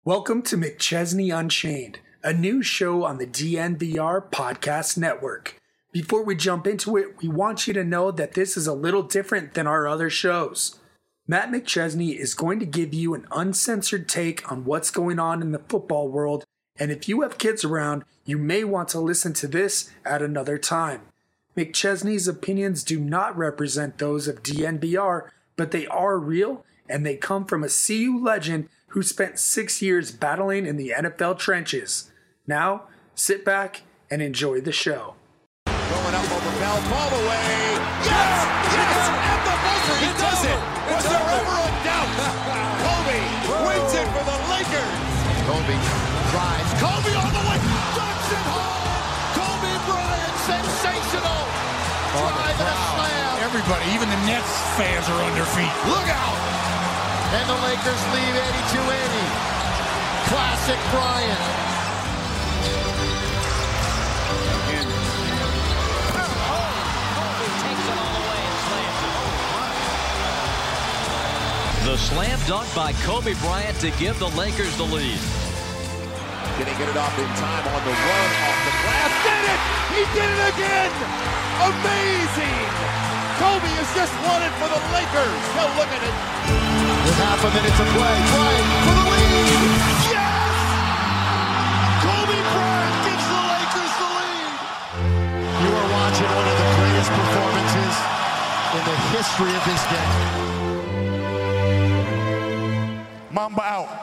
Welcome to McChesney Unchained, a new show on the DNVR Podcast Network. Before we jump into it, we want you to know that this is a little different than our other shows. Matt McChesney is going to give you an uncensored take on what's going on in the football world, and if you have kids around, you may want to listen to this at another time. McChesney's opinions do not represent those of DNVR, but they are real, and they come from a CU legend who spent 6 years battling in the NFL trenches. Now, sit back and enjoy the show. Going up over Bell, ball away. Yes! Yes! At the buzzer, he does it! Was there ever a doubt? Kobe wins it for the Lakers. Kobe drives. Kobe on the way. Ducks it home. Kobe Bryant, sensational. Drive and a slam. Everybody, even the Nets fans are on their feet. Look out! And the Lakers lead 82-80. Classic Bryant. The slam dunk by Kobe Bryant to give the Lakers the lead. Can he get it off in time on the run off the glass? Did it! He did it again! Amazing! Kobe has just won it for the Lakers. Now look at it. With half a minute to play. Bryant for the lead! Yes! Kobe Bryant gives the Lakers the lead. You are watching one of the greatest performances in the history of this game. Mamba out.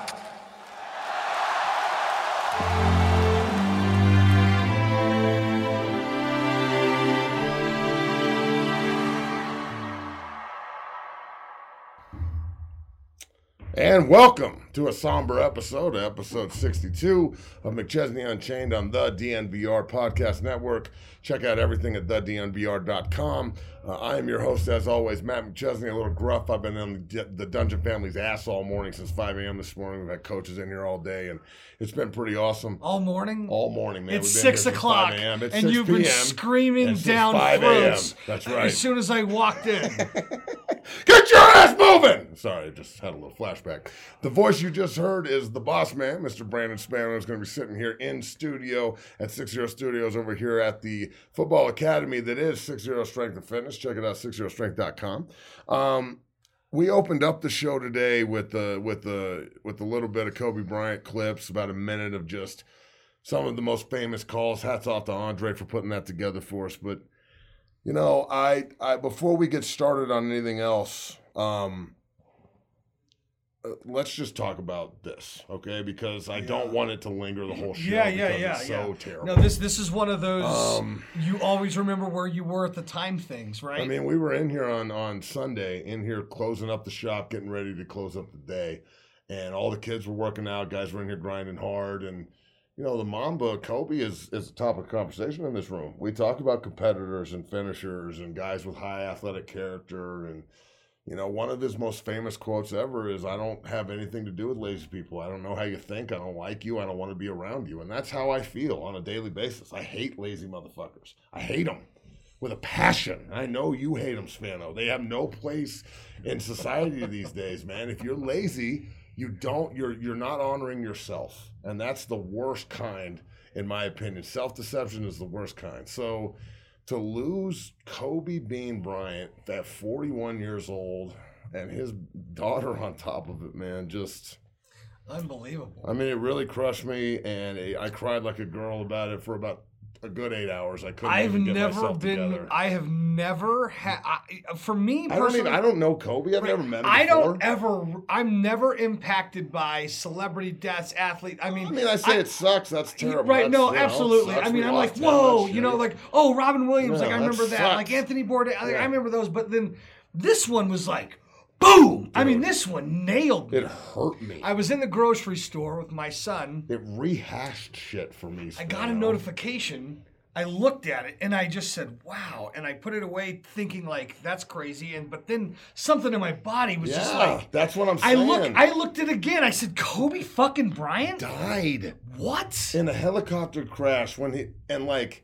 And welcome to a somber episode 62 of McChesney Unchained on the DNVR Podcast Network. Check out everything at thednvr.com. I am your host, as always, Matt McChesney, a little gruff. I've been on the Dungeon Family's ass all morning since 5 a.m. this morning. We've had coaches in here all day, and it's been pretty awesome. All morning? All morning, man. It's 6 o'clock, and 6 you've been screaming down 5 throats That's right. as soon as I walked in. Get your ass moving! Sorry, I just had a little flashback. The voice you just heard is the boss man, Mr. Brandon Spano, is going to be sitting here in studio at 60 Studios over here at the football academy that is 60 Strength and Fitness. Check it out, 60strength.com. We opened up the show today with a little bit of Kobe Bryant clips, about a minute of just some of the most famous calls. Hats off to Andre for putting that together for us. But you know, I before we get started on anything else, let's just talk about this, okay? Because I don't want it to linger the whole show. It's so terrible. No, this is one of those you always remember where you were at the time things, right? I mean, we were in here on Sunday, in here closing up the shop, getting ready to close up the day, and all the kids were working out. Guys were in here grinding hard, and you know, the Mamba, Kobe, is the topic of conversation in this room. We talk about competitors and finishers and guys with high athletic character. And, you know, one of his most famous quotes ever is, I don't have anything to do with lazy people. I don't know how you think. I don't like you. I don't want to be around you. And that's how I feel on a daily basis. I hate lazy motherfuckers. I hate them with a passion. I know you hate them, Spano. They have no place in society these days, man. If you're lazy, you're not honoring yourself. And that's the worst kind, in my opinion. Self-deception is the worst kind. So to lose Kobe Bean Bryant at 41 years old and his daughter on top of it, man, just unbelievable. I mean, it really crushed me, and I cried like a girl about it for about a good 8 hours. I couldn't even get myself together. I have never had, for me personally, I don't know Kobe. I've never met him before. I'm never impacted by celebrity deaths, athlete. I say it sucks. That's terrible. Right, no, absolutely. I mean, I'm like, whoa, you know, like, oh, Robin Williams, Yeah, like, I remember that. sucks. Like, Anthony Bourdain, like, Yeah. I remember those. But then this one was like, boom. Dude, I mean, this one nailed me. It hurt me. I was in the grocery store with my son. It rehashed shit for me. I got a notification. I looked at it and I just said, wow. And I put it away thinking like, that's crazy. But then something in my body was just like, that's what I'm saying. I looked at it again. I said, Kobe fucking Bryant died. What? In a helicopter crash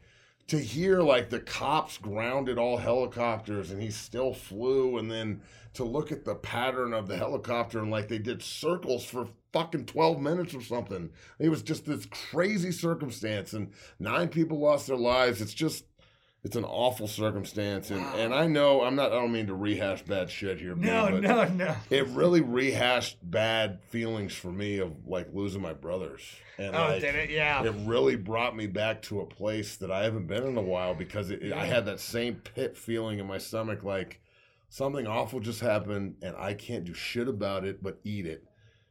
to hear like the cops grounded all helicopters and he still flew, and then to look at the pattern of the helicopter and like they did circles for fucking 12 minutes or something. It was just this crazy circumstance, and 9 people lost their lives. It's an awful circumstance, and I know I don't mean to rehash bad shit here. No. It really rehashed bad feelings for me of like losing my brothers. And did it? Yeah. It really brought me back to a place that I haven't been in a while, because I had that same pit feeling in my stomach, like something awful just happened and I can't do shit about it but eat it.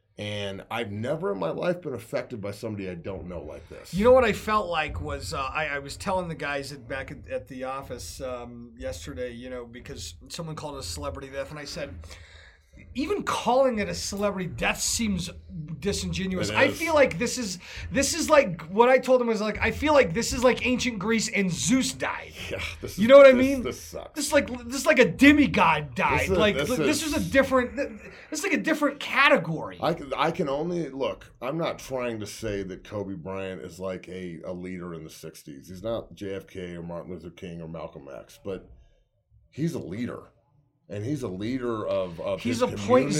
And I've never in my life been affected by somebody I don't know like this. You know what I felt like was I was telling the guys back at the office yesterday, because someone called it a celebrity death, and I said, even calling it a celebrity death seems disingenuous. I feel like this is like what I told him was like, I feel like this is like ancient Greece and Zeus died. Yeah, you know what I mean? This sucks. This is like a demigod died. This is a different. It's like a different category. I can only look. I'm not trying to say that Kobe Bryant is like a leader in the '60s. He's not JFK or Martin Luther King or Malcolm X, but he's a leader. And he's a leader of he's his a community.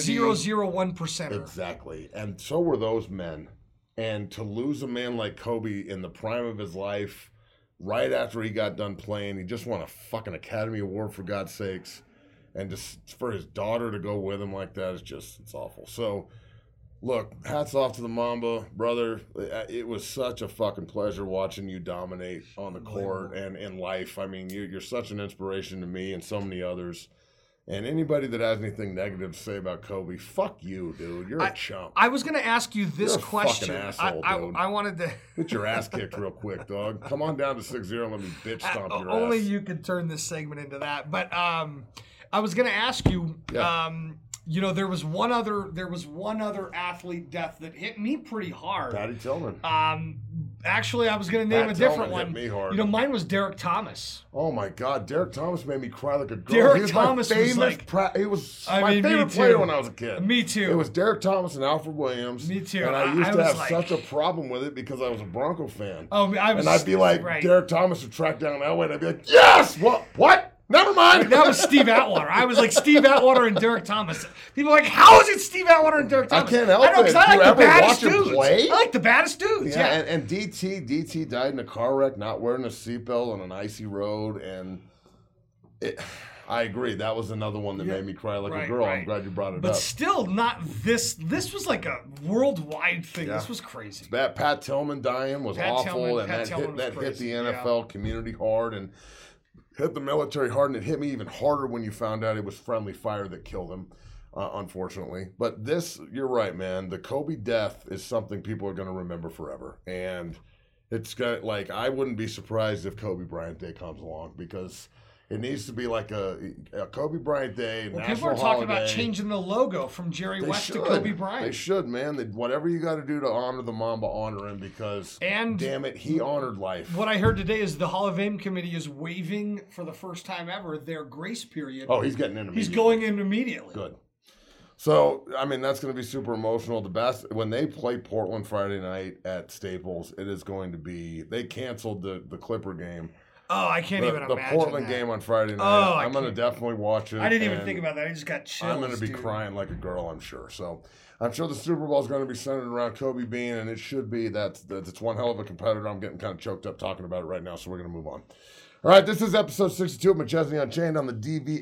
0.001%. Exactly. And so were those men. And to lose a man like Kobe in the prime of his life, right after he got done playing, he just won a fucking Academy Award, for God's sakes. And just for his daughter to go with him like that, it's awful. So, look, hats off to the Mamba, brother. It was such a fucking pleasure watching you dominate on the court and in life. I mean, you're such an inspiration to me and so many others. And anybody that has anything negative to say about Kobe, fuck you, dude. You're a chump. I was going to ask you this You're a question. fucking asshole, dude. I wanted to get your ass kicked real quick, dog. Come on down to 6-0 and let me bitch stomp your ass. Only you could turn this segment into that. But I was going to ask you. Yeah. There was one other athlete death that hit me pretty hard. Patty Tillman. Actually, I was going to name Pat a different Tillman one. hit me hard. Mine was Derek Thomas. Oh my God, Derek Thomas made me cry like a girl. Derek Thomas was like, he was my favorite player when I was a kid. Me too. It was Derek Thomas and Alfred Williams. Me too. And I used to have like, such a problem with it because I was a Bronco fan. Oh, I'd be like, right. Derek Thomas would track down Elway, and I'd be like, yes, what? Never mind. That was Steve Atwater. I was like Steve Atwater and Derek Thomas. People are like, how is it Steve Atwater and Derek Thomas? I can't help it. I know, because I like the baddest dudes. Play? I like the baddest dudes. Yeah. And DT died in a car wreck, not wearing a seatbelt on an icy road, and I agree. That was another one that made me cry like a girl. Right. I'm glad you brought it up. But still not this. This was like a worldwide thing. Yeah. This was crazy. Pat Tillman dying was awful, and that hit the NFL community hard, and hit the military hard, and it hit me even harder when you found out it was friendly fire that killed him, unfortunately. But you're right, man. The Kobe death is something people are going to remember forever. And it's got, I wouldn't be surprised if Kobe Bryant Day comes along, because it needs to be like a Kobe Bryant Day, national holiday. People are talking about changing the logo from Jerry West to Kobe Bryant. They should, man. Whatever you got to do to honor the Mamba, honor him, because, damn it, he honored life. What I heard today is the Hall of Fame committee is waiving, for the first time ever, their grace period. Oh, he's getting in immediately. He's going in immediately. Good. So, I mean, that's going to be super emotional. When they play Portland Friday night at Staples, it is going to be, they canceled the Clipper game. Oh, I can't even imagine the Portland game on Friday night. Oh, I'm going to definitely watch it. I didn't even think about that. I just got chills. I'm going to be crying like a girl, I'm sure. So I'm sure the Super Bowl is going to be centered around Kobe Bean, and it should be. That's one hell of a competitor. I'm getting kind of choked up talking about it right now, so we're going to move on. All right, this is episode 62 of McChesney Unchained on the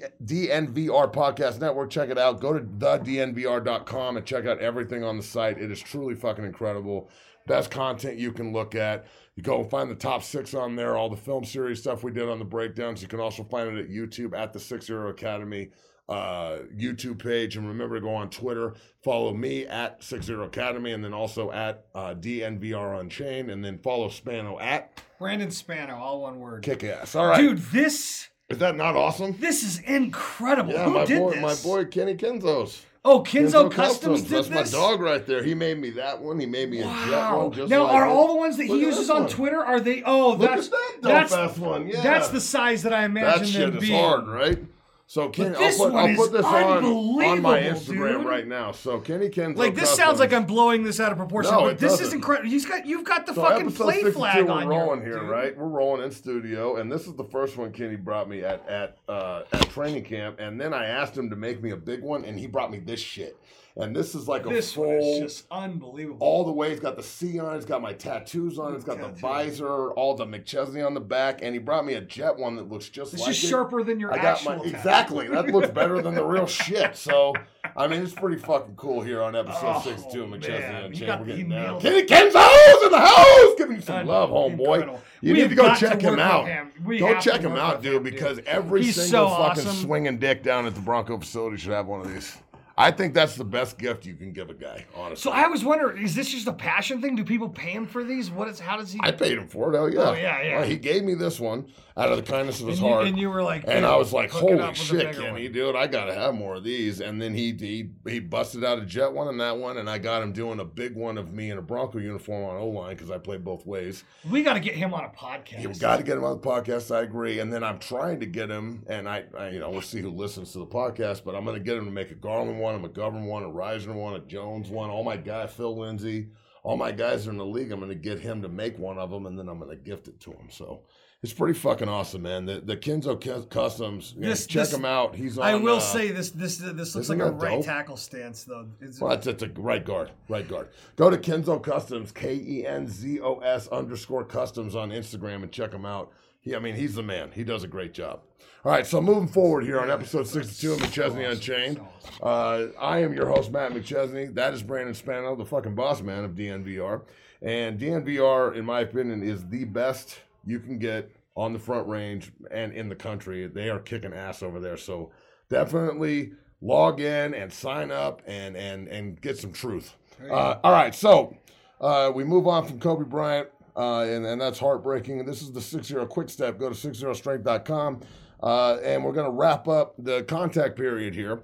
DNVR Podcast Network. Check it out. Go to thednvr.com and check out everything on the site. It is truly fucking incredible. Best content you can look at. You go and find the top 6 on there, all the film series stuff we did on the breakdowns. You can also find it at YouTube at the 6-0 Academy YouTube page. And remember to go on Twitter, follow me at 6-0 Academy, and then also at DNVR Unchained, and then follow Spano at Brandon Spano, all one word. Kick ass. All right. Dude, is that not awesome? This is incredible. Yeah, Who did this? My boy Kenny Kenzos. Oh, Kenzo Customs did That's this? my dog right there. He made me that one. He made me a jet one. Just now, like are it. all the ones that he uses on Twitter, are they? Oh, Look at that dope-ass one. Yeah. That's the size that I imagine that shit them is being. hard, right? So Kenny, this I'll one put this is on my unbelievable, Instagram dude. right now. So Kenny Kenzo Like this Customs. sounds like I'm blowing this out of proportion, No, but it this is doesn't. incredible. You've got the So fucking episode play 62, flag we're on rolling here, here, dude. right? We're rolling in studio, and this is the first one Kenny brought me at training camp, and then I asked him to make me a big one, and he brought me this shit. And this is like This a one is full, just unbelievable. all the way. It's got the C on it. It's got my tattoos on it. It's got the visor, all the McChesney on the back, and he brought me a jet one that looks just It's like just it. sharper than your I got actual my tattoo. exactly. That looks better than the real shit. So I mean, it's pretty fucking cool here on episode 62 of McChesney man. and He Chain. got- We're he getting down. nailed Kenny it. Kenzo's in the house, giving you some love, homeboy. Incredible. You We need have to go got to check him work out. with him. We Go have check to him work out, with dude, him, because dude. every He's single so fucking awesome. swinging dick down at the Bronco facility should have one of these. I think that's the best gift you can give a guy, honestly. So I was wondering, is this just a passion thing? Do people pay him for these? How does he? I paid him for it. Hell yeah. Oh, yeah. Well, he gave me this one out of the kindness of his And you- heart. and you were like, and I was like, hook it holy up with a shit, bigger Kenny, one. dude, I gotta have more of these. And then he busted out a jet one and that one, and I got him doing a big one of me in a Bronco uniform on O-line because I played both ways. We got to get him on a podcast. You've got to get him on the podcast. I agree. And then I'm trying to get him, and I we'll see who listens to the podcast, but I'm going to get him to make a Garland one, a McGovern one, a Reisner one, a Jones one. All my guys, Phil Lindsay, all my guys are in the league. I'm going to get him to make one of them, and then I'm going to gift it to him. So it's pretty fucking awesome, man. The Kenzo Customs, check him out. He's on. I will say this looks like a that right dope? tackle stance though. Well, it's a right guard. Go to Kenzo Customs, KENZOS _customs on Instagram and check him out. He's the man. He does a great job. All right, so moving forward here on episode 62 of McChesney Unchained. I am your host, Matt McChesney. That is Brandon Spano, the fucking boss man of DNVR. And DNVR, in my opinion, is the best you can get on the Front Range and in the country. They are kicking ass over there. So definitely log in and sign up and get some truth. All right, so we move on from Kobe Bryant, and that's heartbreaking. This is the 6-0 quick step. Go to 60strength.com, and we're going to wrap up the contact period here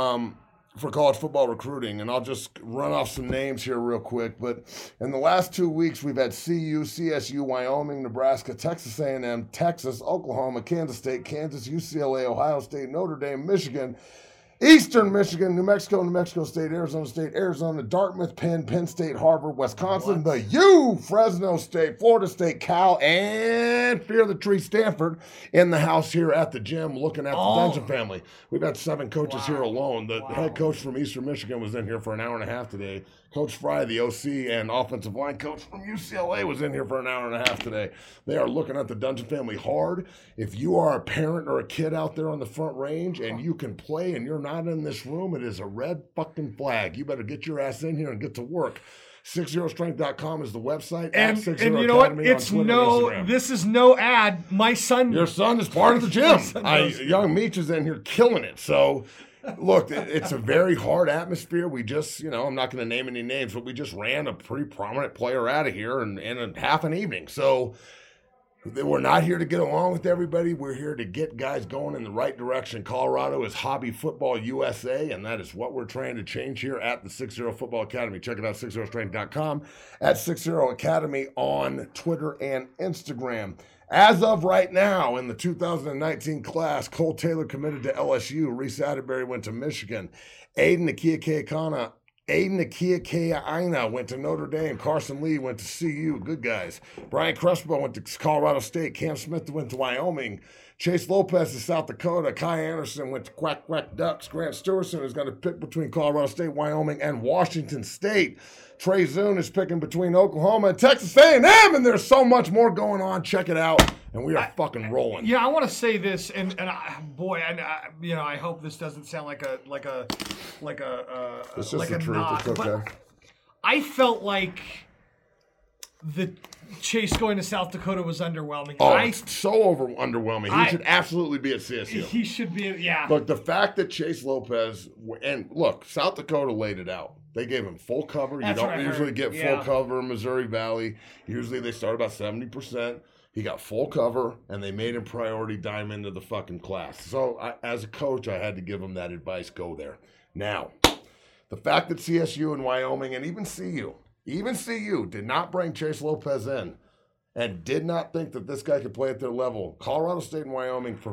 for college football recruiting. And I'll just run off some names here real quick. But in the last 2 weeks, we've had CU, CSU, Wyoming, Nebraska, Texas A&M, Texas, Oklahoma, Kansas State, Kansas, UCLA, Ohio State, Notre Dame, Michigan, Eastern Michigan, New Mexico State, Arizona, Dartmouth, Penn State, Harvard, Wisconsin, the U, Fresno State, Florida State, Cal, and Fear the Tree, Stanford in the house here at the gym looking at the Dungeon family. We've had 7 coaches here alone. The head coach from Eastern Michigan was in here for an hour and a half today. Coach Fry, the OC and offensive line coach from UCLA, was in here for an hour and a half today. They are looking at the Dungeon family hard. If you are a parent or a kid out there on the Front Range and you can play and you're not in this room, it is a red fucking flag. You better get your ass in here and get to work. 60strength.com is the website. And at 60 you know what? Academy on It's Twitter and no. Instagram. This is no ad. My son. Your son is part of the gym. Young Meech is in here killing it. So, look, it's a very hard atmosphere. We just, I'm not going to name any names, but we just ran a pretty prominent player out of here in a half an evening. So, we're not here to get along with everybody. We're here to get guys going in the right direction. Colorado is Hobby Football USA, and that is what we're trying to change here at the 60 Football Academy. Check it out, 60strength.com, at 60 Academy on Twitter and Instagram. As of right now, in the 2019 class, Cole Taylor committed to LSU. Reese Atterbury went to Michigan. Aiden Akia went to Notre Dame. Carson Lee went to CU. Good guys. Brian Crespo went to Colorado State. Cam Smith went to Wyoming. Chase Lopez to South Dakota. Kai Anderson went to Quack Quack Ducks. Grant Stewerson is going to pick between Colorado State, Wyoming, and Washington State. Trey Zune is picking between Oklahoma and Texas A&M, and there's so much more going on. Check it out, and we are fucking rolling. Yeah, I want to say this, and I hope this doesn't sound like a It's just like the a truth. knock, It's okay. but I felt like the Chase going to South Dakota was underwhelming. It's so underwhelming. He should absolutely be at CSU. He should be, yeah. But the fact that Chase Lopez, and look, South Dakota laid it out. They gave him full cover. That's you what don't I usually heard. get full cover in Missouri Valley. Usually they start about 70%. He got full cover, and they made him priority dime into the fucking class. So as a coach, I had to give him that advice, go there. Now, the fact that CSU and Wyoming and even CU did not bring Chase Lopez in and did not think that this guy could play at their level. Colorado State and Wyoming, for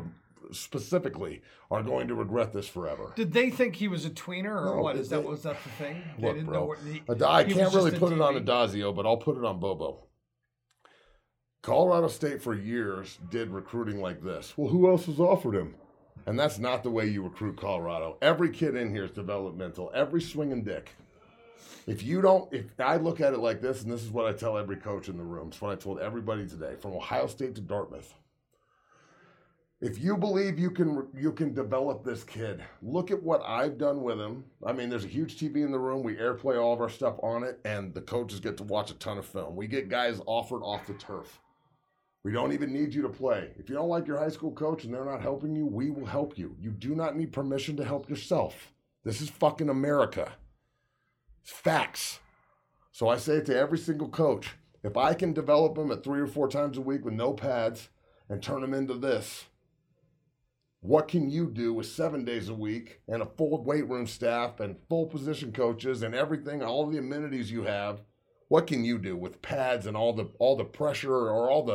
specifically are going to regret this forever. Did they think he was a tweener, or No, what? was that the thing? They Look, didn't bro, know what I he can't was really just put a it on DB. Adazio, but I'll put it on Bobo. Colorado State for years did recruiting like this. Well, who else has offered him? And that's not the way you recruit Colorado. Every kid in here is developmental. Every swinging dick. If I look at it like this, and this is what I tell every coach in the room, it's what I told everybody today, from Ohio State to Dartmouth. If you believe you can develop this kid, look at what I've done with him. I mean, there's a huge TV in the room. We airplay all of our stuff on it, and the coaches get to watch a ton of film. We get guys offered off the turf. We don't even need you to play. If you don't like your high school coach and they're not helping you, we will help you. You do not need permission to help yourself. This is fucking America. It's facts. So I say it to every single coach. If I can develop them at 3 or 4 times a week with no pads and turn them into this, what can you do with 7 days a week and a full weight room staff and full position coaches and everything, all the amenities you have? What can you do with pads and all the pressure or all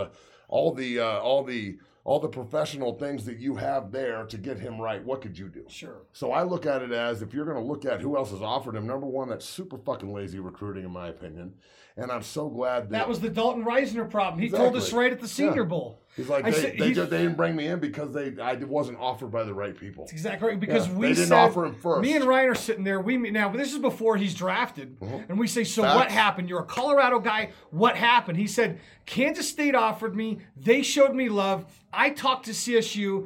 the professional things that you have there to get him right? What could you do? Sure. So I look at it as, if you're going to look at who else has offered him, number one, that's super fucking lazy recruiting, in my opinion. And I'm so glad that was the Dalton Reisner problem. He told us right at the Senior Bowl. He's like, they didn't bring me in because I wasn't offered by the right people. That's exactly right. Because they didn't offer him first. Me and Ryan are sitting there. Now, this is before he's drafted, and we say, so what happened? You're a Colorado guy. What happened? He said, Kansas State offered me. They showed me love. I talked to CSU.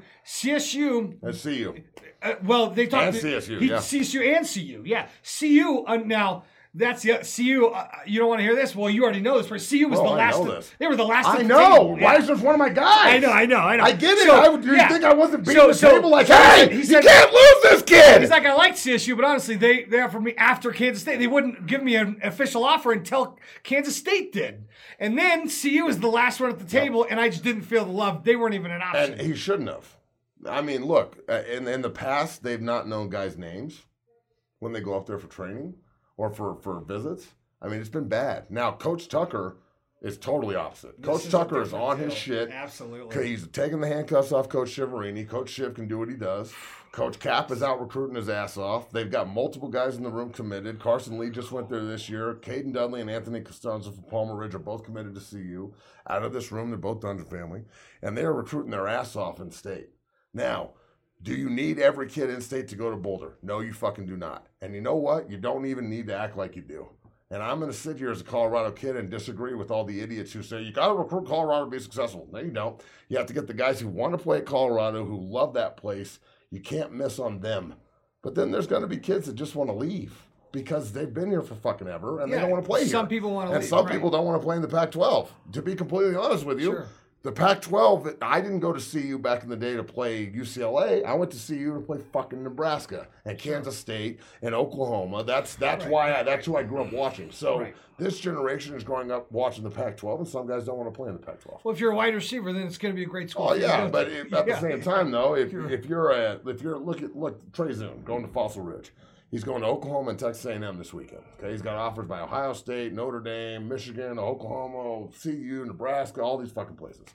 CSU. And CU. Well, they talked and to CSU. Yeah. CSU and CU. Yeah. CU now. That's CU. You don't want to hear this? Well, you already know this. But CU was the last. They were the last. I know. Reisner's one of my guys. I know. I get it. You think I wasn't beating the table like, hey, you can't lose this kid? He's like, I like CSU, but honestly, they offered me after Kansas State. They wouldn't give me an official offer until Kansas State did. And then CU was the last one at the table, and I just didn't feel the love. They weren't even an option. And he shouldn't have. I mean, look, in the past, they've not known guys' names when they go up there for training or for visits. I mean, it's been bad. Now, Coach Tucker is totally opposite. Coach Tucker is on his shit. Absolutely. He's taking the handcuffs off Coach Shiverini. Coach Shiv can do what he does. Coach Cap is out recruiting his ass off. They've got multiple guys in the room committed. Carson Lee just went there this year. Caden Dudley and Anthony Costanzo from Palmer Ridge are both committed to CU. Out of this room, they're both Dungeon family. And they're recruiting their ass off in state. Now, do you need every kid in state to go to Boulder? No, you fucking do not. And you know what? You don't even need to act like you do. And I'm going to sit here as a Colorado kid and disagree with all the idiots who say, you got to recruit Colorado to be successful. No, you don't. You have to get the guys who want to play at Colorado, who love that place. You can't miss on them. But then there's going to be kids that just want to leave because they've been here for fucking ever and they don't want to play here. Some people want to leave. And some people don't want to play in the Pac-12. To be completely honest with you, the Pac-12, I didn't go to CU back in the day to play UCLA. I went to CU to play fucking Nebraska and Kansas State and Oklahoma. That's who I grew up watching. So this generation is growing up watching the Pac-12, and some guys don't want to play in the Pac-12. Well, if you're a wide receiver, then it's going to be a great school. Oh yeah, but at the same time though, if you're look Trey Zoom going to Fossil Ridge. He's going to Oklahoma and Texas A&M this weekend. Okay, he's got offers by Ohio State, Notre Dame, Michigan, Oklahoma, CU, Nebraska, all these fucking places.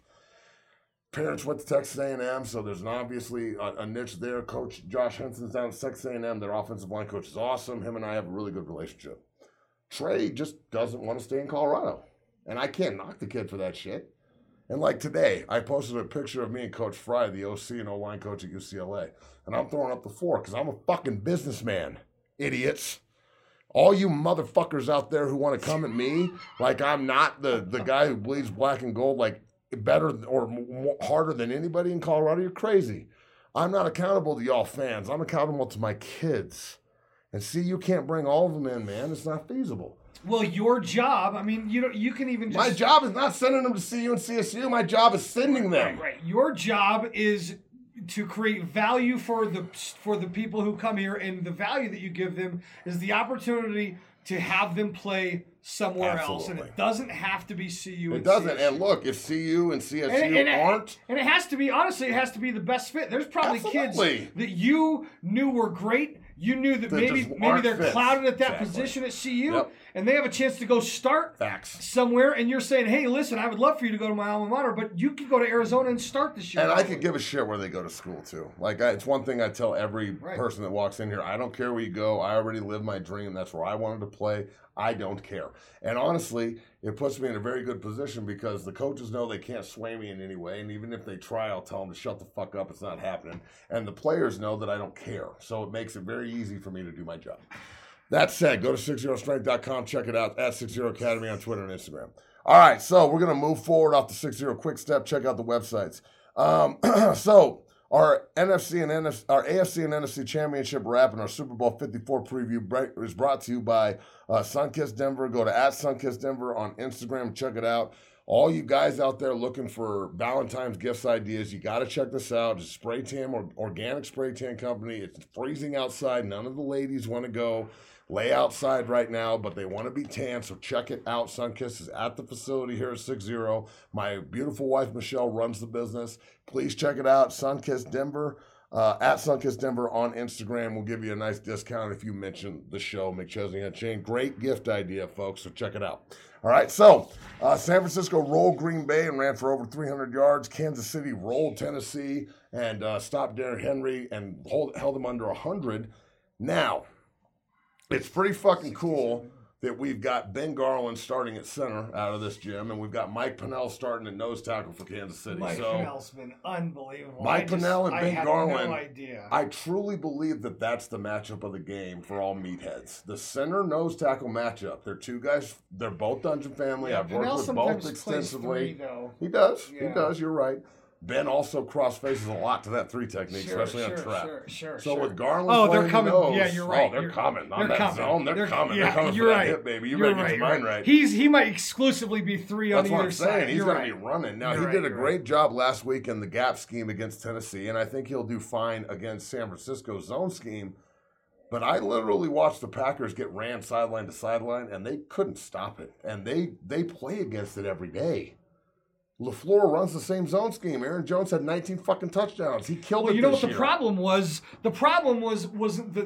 Parents went to Texas A&M, so there's obviously a niche there. Coach Josh Henson's down at Texas A&M. Their offensive line coach is awesome. Him and I have a really good relationship. Trey just doesn't want to stay in Colorado, and I can't knock the kid for that shit. And like today, I posted a picture of me and Coach Fry, the OC and O-line coach at UCLA. And I'm throwing up the fork because I'm a fucking businessman, idiots. All you motherfuckers out there who want to come at me like I'm not the guy who bleeds black and gold like better or harder than anybody in Colorado, you're crazy. I'm not accountable to y'all fans. I'm accountable to my kids. And see, you can't bring all of them in, man. It's not feasible. Well, your job, I mean, you can even just... My job is not sending them to CU and CSU. My job is sending them. Right. Your job is to create value for the people who come here, and the value that you give them is the opportunity to have them play somewhere else. And it doesn't have to be CU and It doesn't. CSU. And look, if CU and CSU aren't... And it has to be, honestly, it has to be the best fit. There's probably kids that you knew were great. You knew that maybe they're clouded at that position at CU. and they have a chance to go start Facts. somewhere, and you're saying, hey, listen, I would love for you to go to my alma mater, but you could go to Arizona and start this year. And I could give a shit where they go to school, too. It's one thing I tell every person that walks in here. I don't care where you go. I already lived my dream. That's where I wanted to play. I don't care. And honestly, it puts me in a very good position because the coaches know they can't sway me in any way. And even if they try, I'll tell them to shut the fuck up. It's not happening. And the players know that I don't care. So it makes it very easy for me to do my job. That said, go to 60strength.com. Check it out at 60 Academy on Twitter and Instagram. All right, so we're going to move forward off the 60 Quick Step. Check out the websites. So our AFC and NFC Championship wrap and our Super Bowl 54 preview is brought to you by Sunkist Denver. Go to @SunkistDenver on Instagram. Check it out. All you guys out there looking for Valentine's gifts ideas, you got to check this out. It's Spray Tan, or Organic Spray Tan Company. It's freezing outside. None of the ladies want to go lay outside right now, but they want to be tan, so check it out. Sunkist is at the facility here at 60. My beautiful wife, Michelle, runs the business. Please check it out, Sunkist Denver, at Sunkist Denver on Instagram. We'll give you a nice discount if you mention the show, McChesney and Chain. Great gift idea, folks, so check it out. All right, so San Francisco rolled Green Bay and ran for over 300 yards. Kansas City rolled Tennessee and stopped Derrick Henry and held him under 100. Now, it's pretty fucking cool that we've got Ben Garland starting at center out of this gym, and we've got Mike Pennel starting at nose tackle for Kansas City. Mike Pennell's been unbelievable. Mike Pennel and Ben Garland, no idea. I truly believe that that's the matchup of the game for all meatheads. The center nose tackle matchup. They're two guys. They're both Dungeon family. I've worked with both extensively. He does. Yeah. He does. You're right. Ben also cross faces a lot to that 3 technique, especially on trap. So with Garland, they're coming. Nose, yeah, you're right. They're coming on that zone. They're coming. Yeah, they're coming you're for right. that hit, baby. You better get your mind right. He might exclusively be 3 on either side. That's what I'm saying. He's going to be running. Now, he did a great job last week in the gap scheme against Tennessee, and I think he'll do fine against San Francisco's zone scheme. But I literally watched the Packers get ran sideline to sideline, and they couldn't stop it. And they play against it every day. LaFleur runs the same zone scheme. Aaron Jones had 19 fucking touchdowns. He killed it this year. You know what the problem was? The problem was that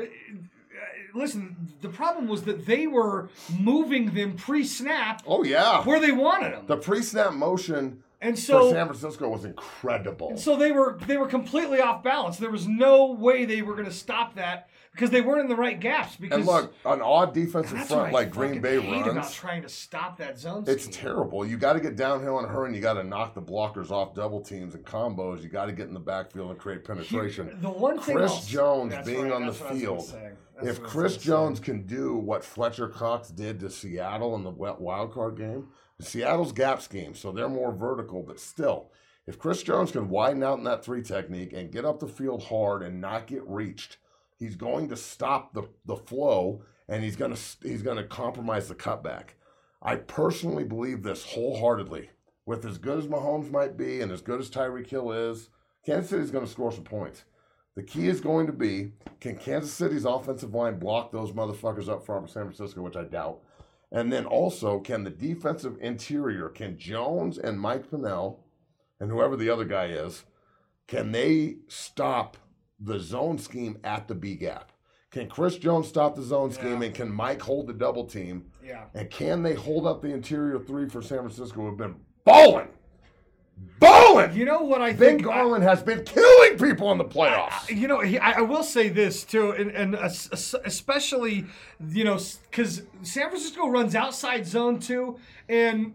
listen, the problem was that they were moving them pre-snap. Oh yeah, where they wanted them. The pre-snap motion for San Francisco was incredible. And so they were completely off balance. There was no way they were going to stop that because they weren't in the right gaps. And look, an odd defensive front like Green Bay runs. About trying to stop that zone. It's terrible. You got to get downhill in a hurry, and you got to knock the blockers off double teams and combos. You got to get in the backfield and create penetration. The one thing Chris Jones being on the field. If Chris Jones can do what Fletcher Cox did to Seattle in the wild card game, Seattle's gap scheme, so they're more vertical, but still, if Chris Jones can widen out in that 3 technique and get up the field hard and not get reached, he's going to stop the flow, and he's going to compromise the cutback. I personally believe this wholeheartedly. With as good as Mahomes might be and as good as Tyreek Hill is, Kansas City's going to score some points. The key is going to be, can Kansas City's offensive line block those motherfuckers up front for San Francisco, which I doubt. And then also, can the defensive interior, can Jones and Mike Pennel, and whoever the other guy is, can they stop the zone scheme at the B gap? Can Chris Jones stop the zone scheme, and can Mike hold the double team? Yeah. And can they hold up the interior 3 for San Francisco, who have been balling? Balling! You know what I Ben think? Garland has been killing people in the playoffs. I will say this, too, and especially, because San Francisco runs outside zone, too, and,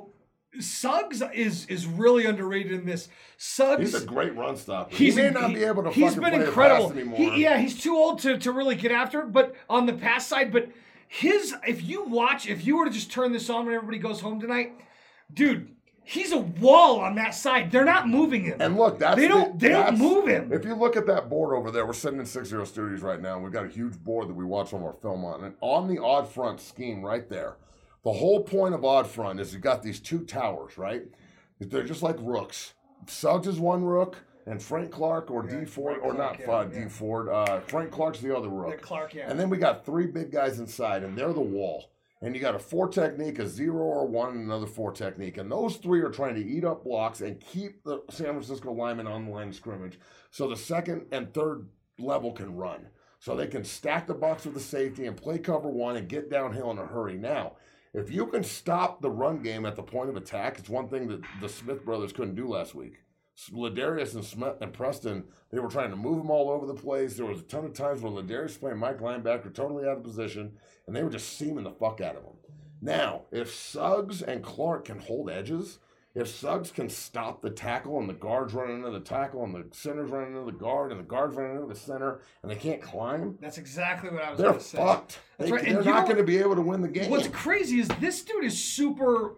Suggs is really underrated in this. Suggs, he's a great run stopper. He may not be able to fucking play incredible. pass anymore. He's too old to really get after it, but on the pass side. But if you were to just turn this on when everybody goes home tonight, dude, he's a wall on that side. They're not moving him. And look, they don't move him. If you look at that board over there, we're sitting in 60 Studios right now, and we've got a huge board that we watch some of our film on. And on the odd front scheme right there, the whole point of odd front is you've got these 2 towers, right? They're just like rooks. Suggs is one rook, and Frank Clark or D Ford, or not D Ford. Frank Clark's the other rook. Clark, yeah. And then we got 3 big guys inside, and they're the wall. And you got a 4 technique, a 0 or 1, and another 4 technique. And those 3 are trying to eat up blocks and keep the San Francisco linemen on the line of scrimmage so the second and third level can run. so they can stack the box with the safety and play cover one and get downhill in a hurry. Now, if you can stop the run game at the point of attack, it's one thing that the Smith brothers couldn't do last week. Ladarius and Smith and Preston, they were trying to move them all over the place. There was a ton of times where Ladarius was playing Mike linebacker totally out of position, and they were just seaming the fuck out of him. Now, if Suggs and Clark can hold edges, if Suggs can stop the tackle and the guard's running into the tackle and the center's running into the guard and the guard's running into the center and they can't climb, that's exactly what I was going to say. They're fucked. That's right. They're not going to be able to win the game. What's crazy is this dude is super,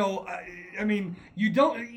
I mean, you don't...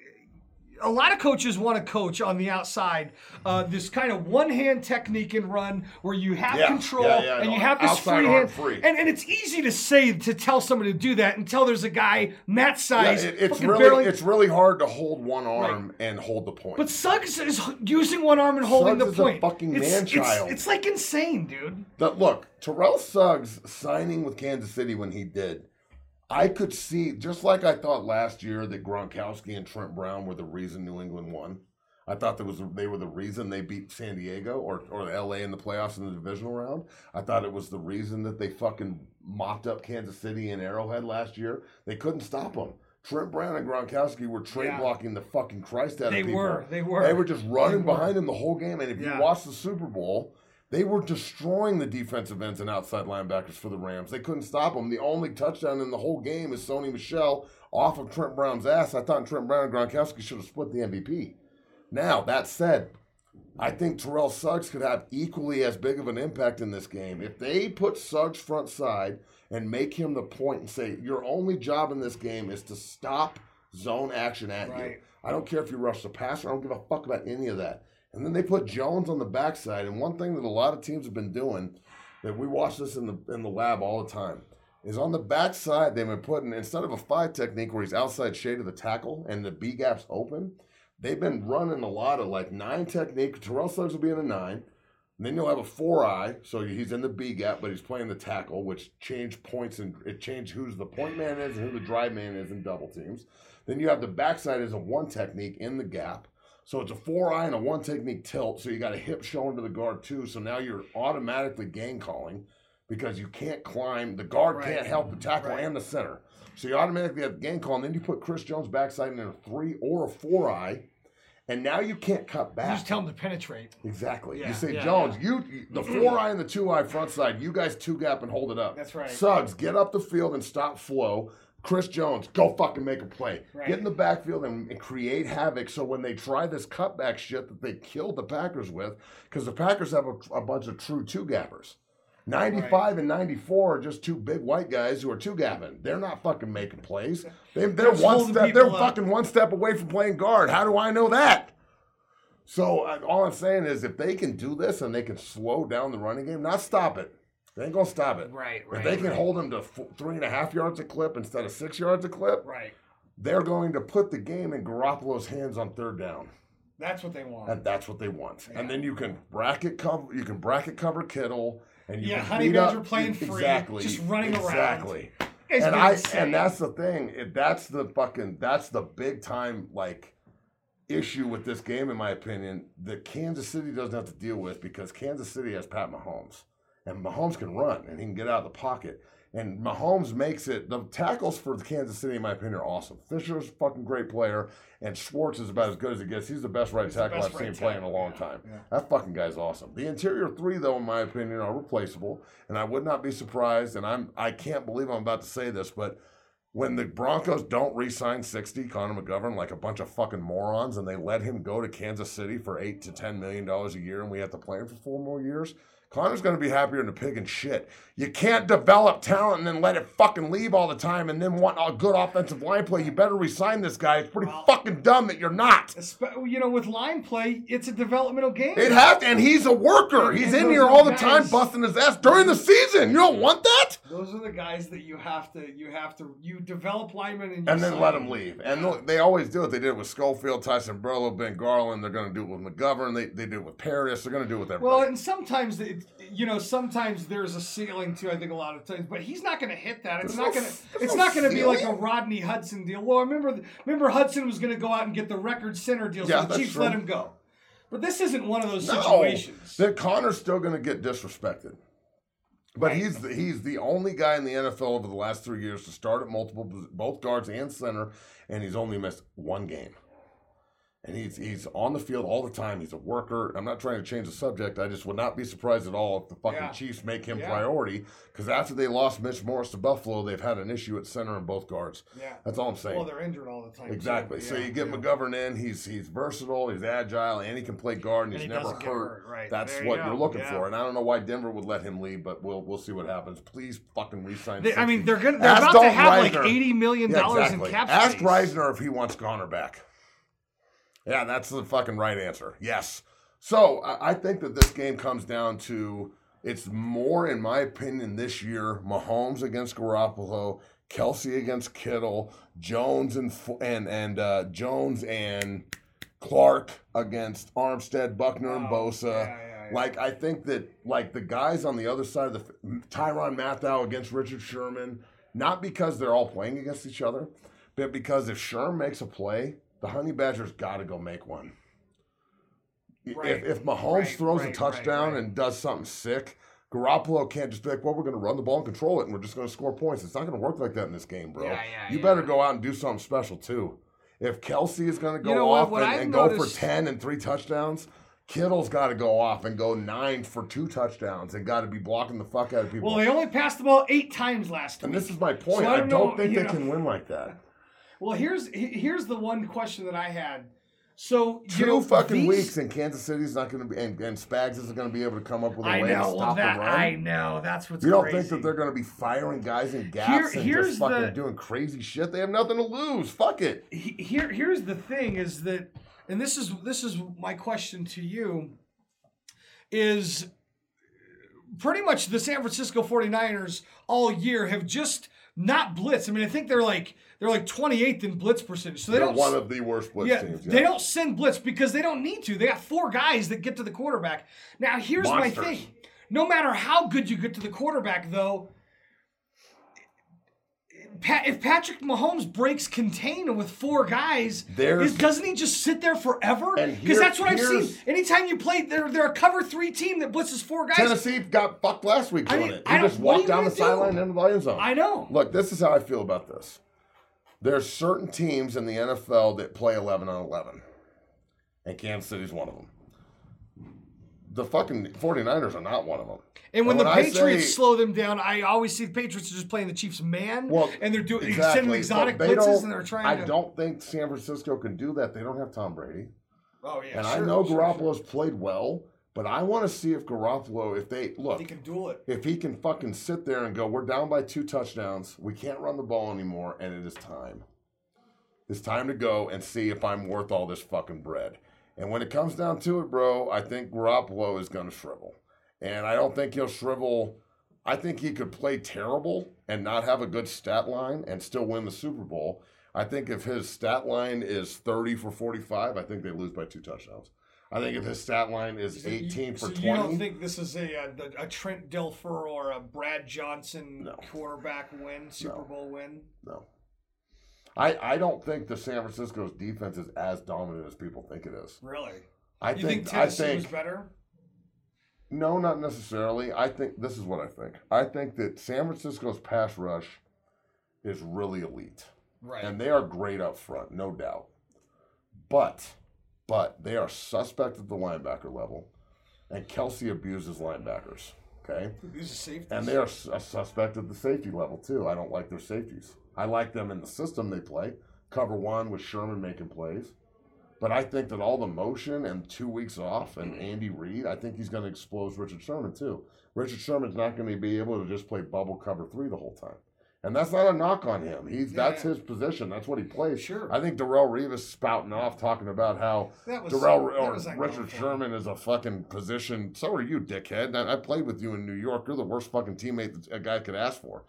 A lot of coaches want to coach on the outside this kind of one-hand technique and run where you have control and you have this free hand. And it's easy to tell somebody to do that until there's a guy Matt's size. It's really hard to hold one arm and hold the point. But Suggs is using one arm and holding Suggs the point. Is a fucking man-child. It's like insane, dude. Look, Terrell Suggs signing with Kansas City when he did, I could see, just like I thought last year that Gronkowski and Trent Brown were the reason New England won. I thought they were the reason they beat San Diego or LA in the playoffs in the divisional round. I thought it was the reason that they fucking mopped up Kansas City and Arrowhead last year. They couldn't stop them. Trent Brown and Gronkowski were trade blocking the fucking Christ out of people. They were. They were just running behind him the whole game. And if you watch the Super Bowl, they were destroying the defensive ends and outside linebackers for the Rams. They couldn't stop them. The only touchdown in the whole game is Sony Michel off of Trent Brown's ass. I thought Trent Brown and Gronkowski should have split the MVP. Now, that said, I think Terrell Suggs could have equally as big of an impact in this game. If they put Suggs front side and make him the point and say, your only job in this game is to stop zone action at you. I don't care if you rush the passer. I don't give a fuck about any of that. And then they put Jones on the backside. And one thing that a lot of teams have been doing, that we watch this in the lab all the time, is on the backside they've been putting, instead of a 5 technique where he's outside shade of the tackle and the B gap's open, they've been running a lot of like 9 technique. Terrell Suggs will be in a 9. And then you'll have a 4-eye, so he's in the B gap, but he's playing the tackle, which changed points and it changed who's the point man is and who the drive man is in double teams. Then you have the backside as a 1 technique in the gap. So it's a 4-eye and a 1 technique tilt. So you got a hip showing to the guard too. So now you're automatically gang calling because you can't climb. The guard can't help the tackle and the center. So you automatically have the gang call. And then you put Chris Jones backside in a 3 or a 4-eye. And now you can't cut back. You just tell him to penetrate. Exactly. Yeah, you say, Jones, you the 4-eye and the 2-eye front side, you guys 2-gap and hold it up. That's right. Suggs, get up the field and stop flow. Chris Jones, go fucking make a play. Get in the backfield and create havoc so when they try this cutback shit that they killed the Packers with, because the Packers have a bunch of true 2-gappers. 95 and 94 are just 2 big white guys who are 2-gapping. They're not fucking making plays. They're fucking 1 step away from playing guard. How do I know that? So all I'm saying is if they can do this and they can slow down the running game, not stop it. They ain't going to stop it. If they can hold them to 3.5 yards a clip instead of 6 yards a clip, they're going to put the game in Garoppolo's hands on 3rd down. That's what they want. And that's what they want. Yeah. And then you can bracket cover Kittle. And you can Honey Badger playing free. Exactly. Just running around. Exactly. And that's the thing. That's the big time issue with this game, in my opinion, that Kansas City doesn't have to deal with because Kansas City has Pat Mahomes. And Mahomes can run, and he can get out of the pocket. And Mahomes makes it. The tackles for Kansas City, in my opinion, are awesome. Fisher's a fucking great player, and Schwartz is about as good as it gets. He's the best right tackle I've seen play in a long time. Yeah. That fucking guy's awesome. The interior 3, though, in my opinion, are replaceable, and I would not be surprised, and I can't believe I'm about to say this, but when the Broncos don't re-sign 60, Connor McGovern, like a bunch of fucking morons, and they let him go to Kansas City for $8 to $10 million a year, and we have to play him for 4 more years, Connor's going to be happier than a pig in shit. You can't develop talent and then let it fucking leave all the time and then want a good offensive line play. You better resign this guy. It's pretty fucking dumb that you're not. With line play, it's a developmental game. It has to, and he's a worker. He's in here all the time busting his ass during the season. You don't want that? Those are the guys that you develop linemen and then let them leave. And look, they always do it. They did it with Schofield, Tyson Burlow, Ben Garland. They're going to do it with McGovern. They do it with Paris. They're going to do it with everybody. Well, and sometimes sometimes there's a ceiling too. I think a lot of times, but he's not going to hit that. It's not going to be like a Rodney Hudson deal. Well, remember Hudson was going to go out and get the record center deal, so the Chiefs let him go. But this isn't one of those situations. That Connor's still going to get disrespected. But he's the only guy in the NFL over the last 3 years to start at both guards and center, and he's only missed one game. And he's on the field all the time. He's a worker. I'm not trying to change the subject. I just would not be surprised at all if the fucking Chiefs make him priority. Because after they lost Mitch Morris to Buffalo, they've had an issue at center and both guards. Yeah. That's all I'm saying. Well, they're injured all the time. Exactly. So you get McGovern in. He's versatile. He's agile. And he can play guard. And he's never hurt. Right. That's what you're looking for. And I don't know why Denver would let him leave, but we'll see what happens. Please fucking re-sign him. I mean, they're about to have like $80 million in cap space. Ask Reisner if he wants Connor back. Yeah, that's the fucking right answer. Yes. So I think that this game comes down to, it's more, in my opinion, this year, Mahomes against Garoppolo, Kelsey against Kittle, Jones and Jones and Clark against Armstead, Buckner, and Bosa. Yeah. Like, I think that, like, the guys on the other side of the Tyrann Mathieu against Richard Sherman, not because they're all playing against each other, but because if Sherman makes a play, the Honey Badgers got to go make one. Right. If Mahomes throws a touchdown and does something sick, Garoppolo can't just be like, well, we're going to run the ball and control it, and we're just going to score points. It's not going to work like that in this game, bro. You better go out and do something special, too. If Kelsey is going to go off and go for 10 and 3 touchdowns, Kittle's got to go off and go 9 for 2 touchdowns and got to be blocking the fuck out of people. Well, they only passed the ball 8 times last week. And this is my point. So I don't think they can win like that. Well, here's the one question that I had. So 2 fucking weeks and Kansas City's not going to be, and Spags isn't going to be able to come up with a way to stop the run. I know, that's what's crazy. You don't think that they're going to be firing guys in gaps and just fucking doing crazy shit? They have nothing to lose. Fuck it. Here's the thing is that, and this is my question to you, is pretty much the San Francisco 49ers all year have just not blitzed. I mean, I think they're like 28th in blitz percentage. So they're one of the worst blitz teams. They don't send blitz because they don't need to. They got 4 guys that get to the quarterback. Now, here's my thing. No matter how good you get to the quarterback, though, if Patrick Mahomes breaks contain with 4 guys, doesn't he just sit there forever? Because that's what I've seen. Anytime you play, they're a cover 3 team that blitzes 4 guys. Tennessee got fucked last week doing it. He just walked down the sideline into the end zone. I know. Look, this is how I feel about this. There's certain teams in the NFL that play 11 on 11. And Kansas City's one of them. The fucking 49ers are not one of them. And when the Patriots slow them down, I always see the Patriots are just playing the Chiefs man, and they're sending exotic blitzes, and they're trying to... I don't think San Francisco can do that. They don't have Tom Brady. Oh, yeah, And I know Garoppolo's played well, but I want to see if Garoppolo, he can duel it. If he can fucking sit there and go, we're down by 2 touchdowns, we can't run the ball anymore, and it is time. It's time to go and see if I'm worth all this fucking bread. And when it comes down to it, bro, I think Garoppolo is going to shrivel. And I don't think he'll shrivel. I think he could play terrible and not have a good stat line and still win the Super Bowl. I think if his stat line is 30 for 45, I think they lose by 2 touchdowns. I think if his stat line is 18 for 20. You don't think this is a Trent Dilfer or a Brad Johnson quarterback win, Super Bowl win? No. I don't think the San Francisco's defense is as dominant as people think it is. Really? You think Tennessee was better? No, not necessarily. I think this is what I think. I think that San Francisco's pass rush is really elite. Right. And they are great up front, no doubt. But they are suspect at the linebacker level. And Kelsey abuses linebackers. Okay? Abuses safeties. And they are a suspect at the safety level, too. I don't like their safeties. I like them in the system they play. Cover 1 with Sherman making plays. But I think that all the motion and 2 weeks off and Andy Reid, I think he's going to expose Richard Sherman too. Richard Sherman's not going to be able to just play bubble cover 3 the whole time. And that's not a knock on him. That's his position. That's what he plays. Sure. I think Darrelle Revis spouting off talking about how Richard Sherman is a fucking position. So are you, dickhead. I played with you in New York. You're the worst fucking teammate that a guy could ask for.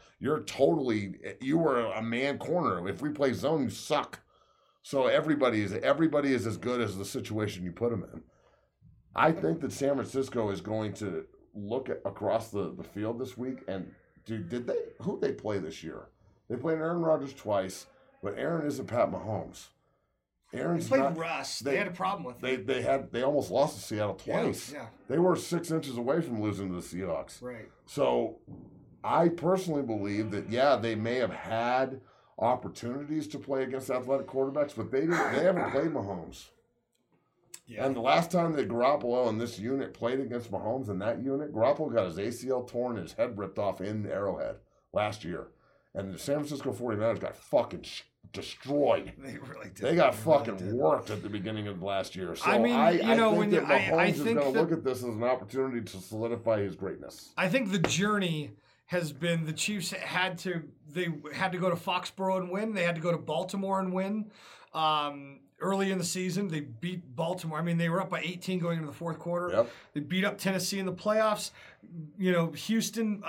You were a man corner. If we play zone, you suck. So everybody is as good as the situation you put them in. I think that San Francisco is going to look across the field this week and who'd they play this year? They played Aaron Rodgers twice, but Aaron isn't Pat Mahomes. Aaron's They played not, Russ. They had a problem with it. They almost lost to Seattle twice. Yeah. They were 6 inches away from losing to the Seahawks. Right. So I personally believe that, they may have had opportunities to play against athletic quarterbacks, but they haven't played Mahomes. Yeah. And the last time that Garoppolo and this unit played against Mahomes in that unit, Garoppolo got his ACL torn and his head ripped off in Arrowhead last year. And the San Francisco 49ers got fucking destroyed. They really did. They got fucking worked at the beginning of last year. So I mean, I think when that Mahomes is think going to look at this as an opportunity to solidify his greatness. I think the journey has been the Chiefs had to go to Foxborough and win. They had to go to Baltimore and win. Early in the season, they beat Baltimore. I mean, they were up by 18 going into the fourth quarter. Yep. They beat up Tennessee in the playoffs. Houston.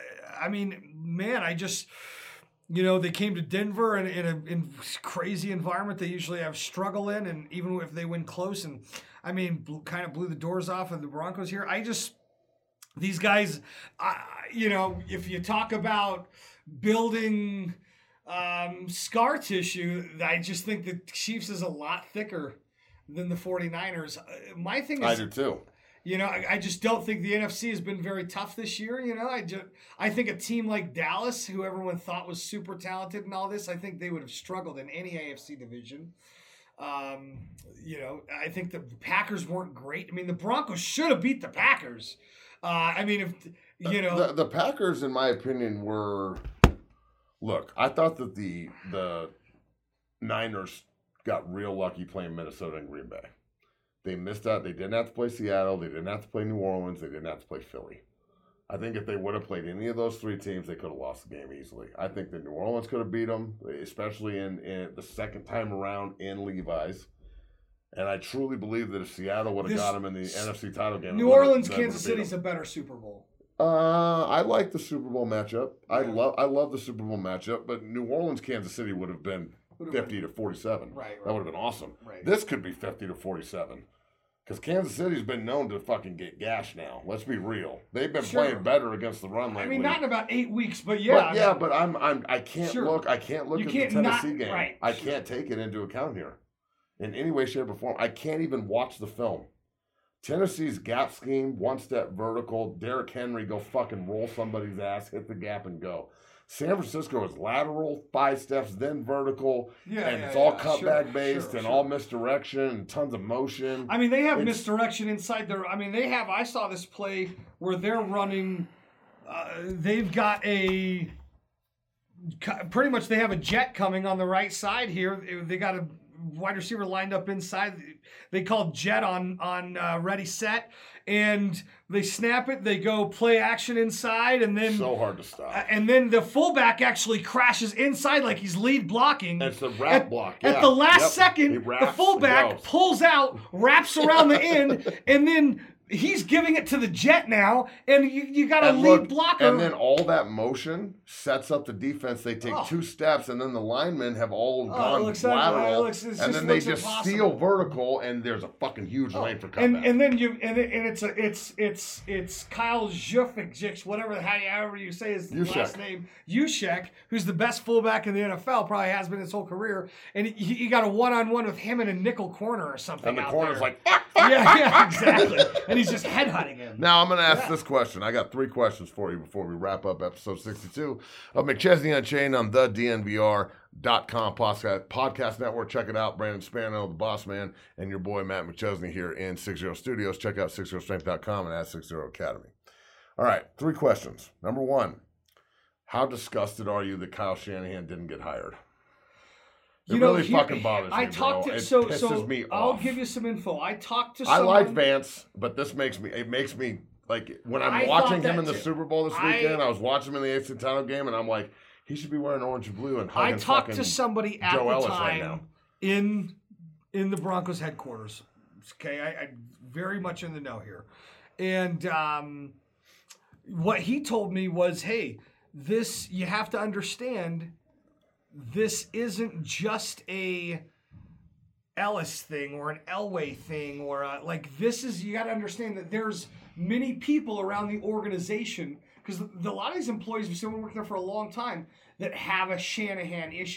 They came to Denver in a crazy environment they usually have struggle in, and even if they win close, and kind of blew the doors off of the Broncos here. These guys, if you talk about building scar tissue, I just think the Chiefs is a lot thicker than the 49ers. My thing is, I do too. I just don't think the NFC has been very tough this year. I think a team like Dallas, who everyone thought was super talented and all this, I think they would have struggled in any AFC division. I think the Packers weren't great. I mean, the Broncos should have beat the Packers. The Packers, in my opinion, were. Look, I thought that the Niners got real lucky playing Minnesota and Green Bay. They missed out. They didn't have to play Seattle. They didn't have to play New Orleans. They didn't have to play Philly. I think if they would have played any of those three teams, they could have lost the game easily. I think that New Orleans could have beat them, especially in the second time around in Levi's. And I truly believe that if Seattle would have got them in the NFC title game, New Orleans, Kansas City's a better Super Bowl. I like the Super Bowl matchup. Yeah. I love the Super Bowl matchup, but New Orleans, Kansas City would have been 50-47. Right. That would have been awesome. Right. This could be 50-47. Because Kansas City's been known to fucking get gashed now. Let's be real. They've been playing better against the run lately. Not in about 8 weeks, but I can't look at the Tennessee game. Right, I can't take it into account here in any way, shape, or form. I can't even watch the film. Tennessee's gap scheme, one step vertical, Derrick Henry go fucking roll somebody's ass, hit the gap and go. San Francisco is lateral, 5 steps, then vertical, and it's all cutback based and all misdirection and tons of motion. They have misdirection inside their. I saw this play where they're running. They've got pretty much they have a jet coming on the right side here. They got a wide receiver lined up inside. They call jet on ready set. And they snap it, they go play action inside, and then... So hard to stop. And then the fullback actually crashes inside like he's lead blocking. It's the wrap block, At the last second, the fullback pulls out, wraps around the end, and then... He's giving it to the jet now, and you got a lead blocker. And then all that motion sets up the defense. They take 2 steps, and then the linemen have all gone lateral, and then they just steal vertical, and there's a fucking huge lane for cutback. And then it's Kyle Juszczyk, however you say his last name, Juszczyk, who's the best fullback in the NFL, probably has been his whole career, and you got a one-on-one with him in a nickel corner or something. And the corner's there. like, yeah, exactly. And he's just headhunting him. Now I'm going to ask this question. I got 3 questions for you before we wrap up episode 62 of McChesney Unchained on the DNVR.com podcast network. Check it out. Brandon Spano, the boss man, and your boy Matt McChesney here in 60 Studios. Check out 60strength.com and at 60 Academy. All right, 3 questions. Number 1, how disgusted are you that Kyle Shanahan didn't get hired? It really fucking bothers me, bro. It pisses me off. I'll give you some info. I talked to someone. I like Vance, but this makes me like when I'm watching him in the Super Bowl this weekend. I was watching him in the AFC title game, and I'm like, he should be wearing orange and blue and hugging fucking Joe Ellis right now. I talked to somebody at the time in the Broncos headquarters. Okay, I very much in the know here, and what he told me was, hey, this you have to understand. This isn't just a Ellis thing or an Elway thing or this is, you got to understand that there's many people around the organization because a lot of these employees, we've been working there for a long time, that have a Shanahan issue.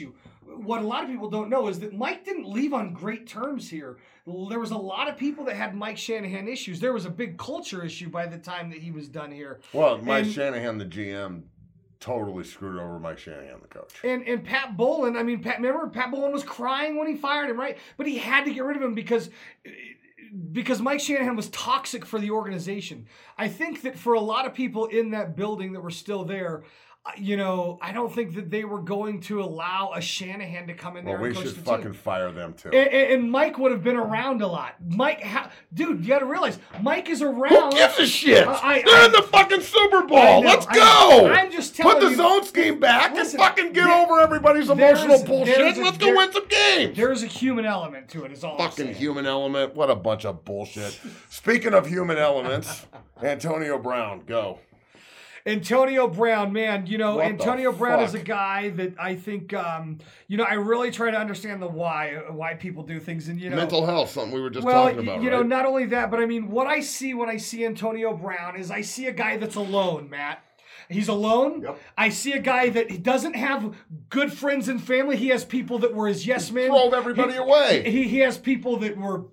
what a lot of people don't know is that Mike didn't leave on great terms here. There was a lot of people that had Mike Shanahan issues. There was a big culture issue by the time that he was done here. Well, Mike Shanahan, the GM, totally screwed over Mike Shanahan, the coach. And Pat Bowlen, I mean, remember Pat Bowlen was crying when he fired him, right? But he had to get rid of him because Mike Shanahan was toxic for the organization. I think that for a lot of people in that building that were still there, I don't think that they were going to allow a Shanahan to come in there and coach the team. We should fucking fire them, too. And Mike would have been around a lot. Dude, you got to realize, Mike is around. Who gives a shit? They're in the fucking Super Bowl. Let's go. I'm just telling you. Put the zone scheme back and fucking get over everybody's emotional bullshit. Let's go win some games. There's a human element to it, is all I'm saying. Fucking human element. What a bunch of bullshit. Speaking of human elements, Antonio Brown, go. Antonio Brown, man, Antonio Brown is a guy that I think, I really try to understand the why people do things. And, mental health, something we were just talking about, right? Not only that, but I mean, what I see when I see Antonio Brown is I see a guy that's alone, Matt. He's alone. Yep. I see a guy that doesn't have good friends and family. He has people that were his yes men. Throw everybody away. He has people that were...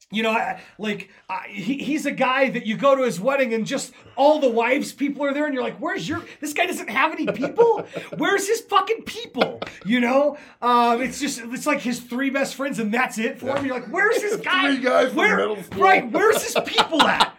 he's a guy that you go to his wedding and just all the wives' people are there and you're like, this guy doesn't have any people? Where's his fucking people? It's like his three best friends and that's it for him. You're like, where's this guy? Three guys from middle school. Right, where's his people at?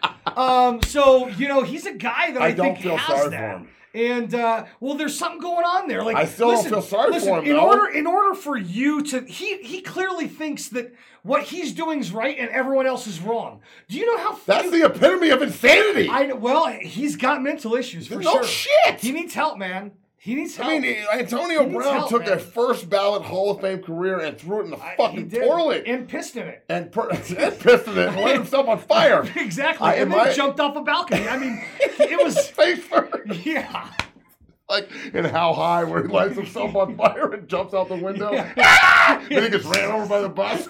He's a guy that I think don't feel has sorry that. for him. And there's something going on there. Like I still don't feel sorry for him. In order for you to, he clearly thinks that what he's doing is right and everyone else is wrong. Do you know how? That's the epitome of insanity. He's got mental issues for no sure. Shit. He needs help, man. He needs help. I mean, Antonio Brown took a first ballot Hall of Fame career and threw it in the fucking toilet. And pissed in it. And pissed in it and lit himself on fire. Exactly. And then jumped off a balcony. I mean, it was... Face first. Yeah. Like in How High, where he lights himself on fire and jumps out the window. Yeah. Then he gets ran over by the bus.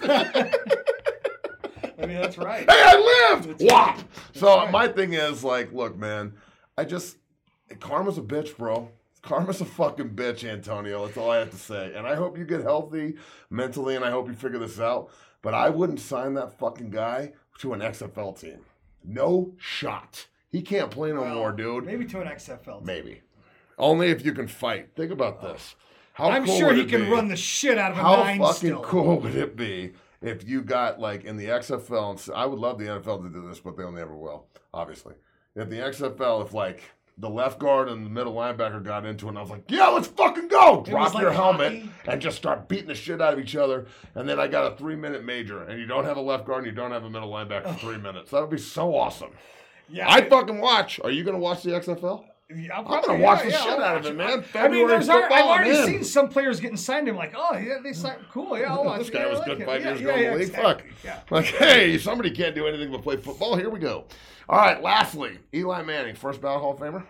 I mean, that's right. Hey, I lived! Whop! So my thing is, like, look, man, karma's a bitch, bro. Karma's a fucking bitch, Antonio. That's all I have to say. And I hope you get healthy mentally, and I hope you figure this out. But I wouldn't sign that fucking guy to an XFL team. No shot. He can't play no more, dude. Maybe to an XFL team. Maybe. Only if you can fight. Think about this. I'm sure he can run the shit out of a nine still. How still. fucking cool would it be if you got, like, in the XFL, and I would love the NFL to do this, but they'll never will, obviously. If the XFL, if, like, the left guard and the middle linebacker got into it, and I was like, yeah, let's fucking go! Drop your helmet and just start beating the shit out of each other. And then I got a 3-minute major, and you don't have a left guard and you don't have a middle linebacker for 3 minutes. That would be so awesome. Yeah, I'd fucking watch. Are you going to watch the XFL? I'm going to watch the shit out of it, man. I've already seen some players getting signed. I'm like, oh, yeah, they signed. Cool, yeah, I'll watch. This guy was good 5 years ago in the league. Fuck. Yeah. Like, hey, somebody can't do anything but play football. Here we go. All right, lastly, Eli Manning, first ballot Hall of Famer?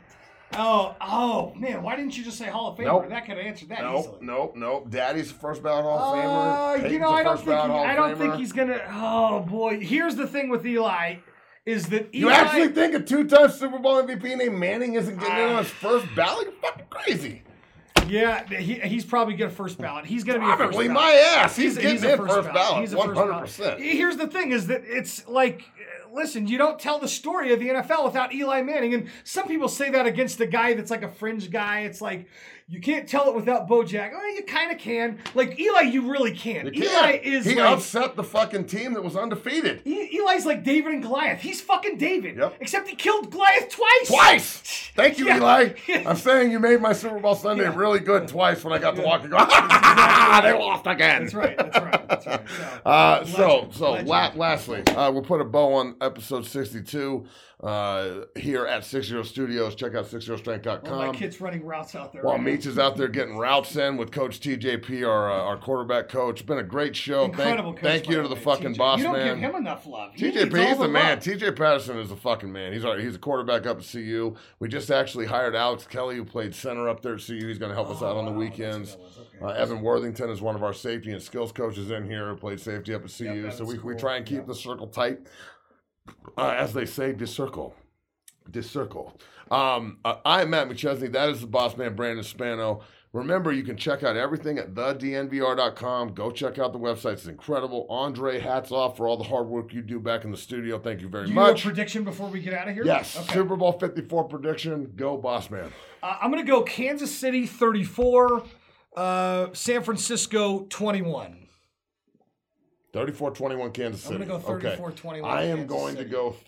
Oh, man, why didn't you just say Hall of Famer? Nope. That could have answered that easily. Nope. Daddy's first ballot Hall of Famer. I don't think he's going to. Oh, boy. Here's the thing with Eli. Is that Eli... You actually think a 2-time Super Bowl MVP named Manning isn't getting in on his first ballot? You're fucking crazy. Yeah, he's probably going to first ballot. He's going to be probably a first my ass. He's getting in first ballot. He's 100%. Here's the thing is that it's like... Listen, you don't tell the story of the NFL without Eli Manning. And some people say that against a guy that's like a fringe guy. It's like, you can't tell it without Bo Jack. Well, you kind of can. Like, Eli, you really can. Eli is He upset the fucking team that was undefeated. Eli's like David and Goliath. He's fucking David. Yep. Except he killed Goliath twice. Twice! Thank you, Eli. I'm saying you made my Super Bowl Sunday really good twice when I got to walk and go, they lost again. That's right. Lastly, we'll put a bow on episode 62 here at 60 Studios. Check out 60strength.com. Well, my kid's running routes out there. While Meach is out there getting routes in with Coach TJP, our quarterback coach. It's been a great show. Incredible coach. Thank you to the fucking boss man. You don't give him enough love. TJP, he's the man. TJ Patterson is the fucking man. He's a quarterback up at CU. We just actually hired Alex Kelly, who played center up there at CU. He's going to help us out on the weekends. Evan Worthington is one of our safety and skills coaches in here who played safety up at CU. Yep, so we try and keep the circle tight. As they say, discircle. I'm Matt McChesney. That is the boss man, Brandon Spano. Remember, you can check out everything at thednvr.com. Go check out the website. It's incredible. Andre, hats off for all the hard work you do back in the studio. Thank you very much. You have a prediction before we get out of here? Yes. Okay. Super Bowl 54 prediction. Go, boss man. I'm going to go Kansas City 34, San Francisco 21. 34-21 Kansas City. I'm going to go 34-21 I am Kansas going City. to go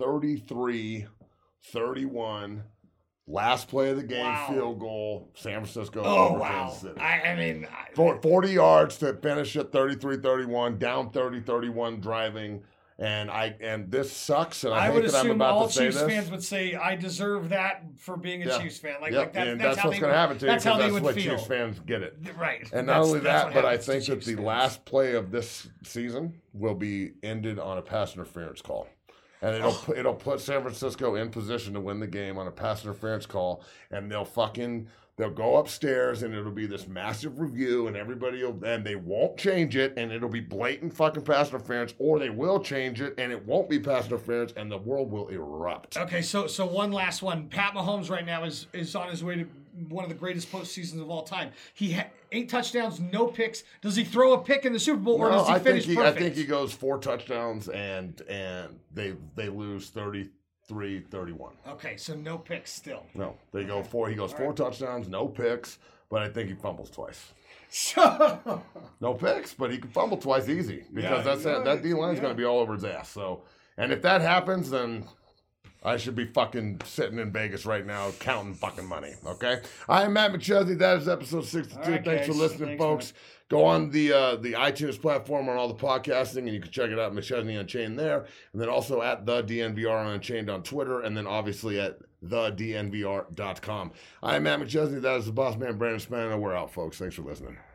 33-31. Last play of the game, field goal, San Francisco over Kansas City. I mean... 40 yards to finish at 33-31, down 30-31 driving. And this sucks, and I hate that I'm about to say this. I would assume all Chiefs fans would say, I deserve that for being a Chiefs fan. Like that's what's going to happen to you, that's how they would what feel. Chiefs fans get it. Right. And not only that, but I think that the last play of this season will be ended on a pass interference call. And it'll put San Francisco in position to win the game on a pass interference call, and they'll go upstairs, and it'll be this massive review, and and they won't change it, and it'll be blatant fucking pass interference, or they will change it, and it won't be pass interference, and the world will erupt. Okay, so one last one. Pat Mahomes right now is on his way to one of the greatest postseasons of all time. He 8 touchdowns, no picks. Does he throw a pick in the Super Bowl, or does he finish perfect? I think he goes 4 touchdowns, and they lose 33-31. Okay, so no picks still. No, they go 4. He goes 4 touchdowns, no picks, but I think he fumbles twice. No picks, but he can fumble twice easy because that D line's going to be all over his ass. So, and if that happens, then I should be fucking sitting in Vegas right now counting fucking money, okay? I am Matt McChesney. That is episode 62. Right, Thanks for listening, folks. Man. Go on the iTunes platform on all the podcasting, and you can check it out, McChesney Unchained there. And then also at the DNVR Unchained on Twitter, and then obviously at thednvr.com. I am Matt McChesney. That is the boss man, Brandon Spano. We're out, folks. Thanks for listening.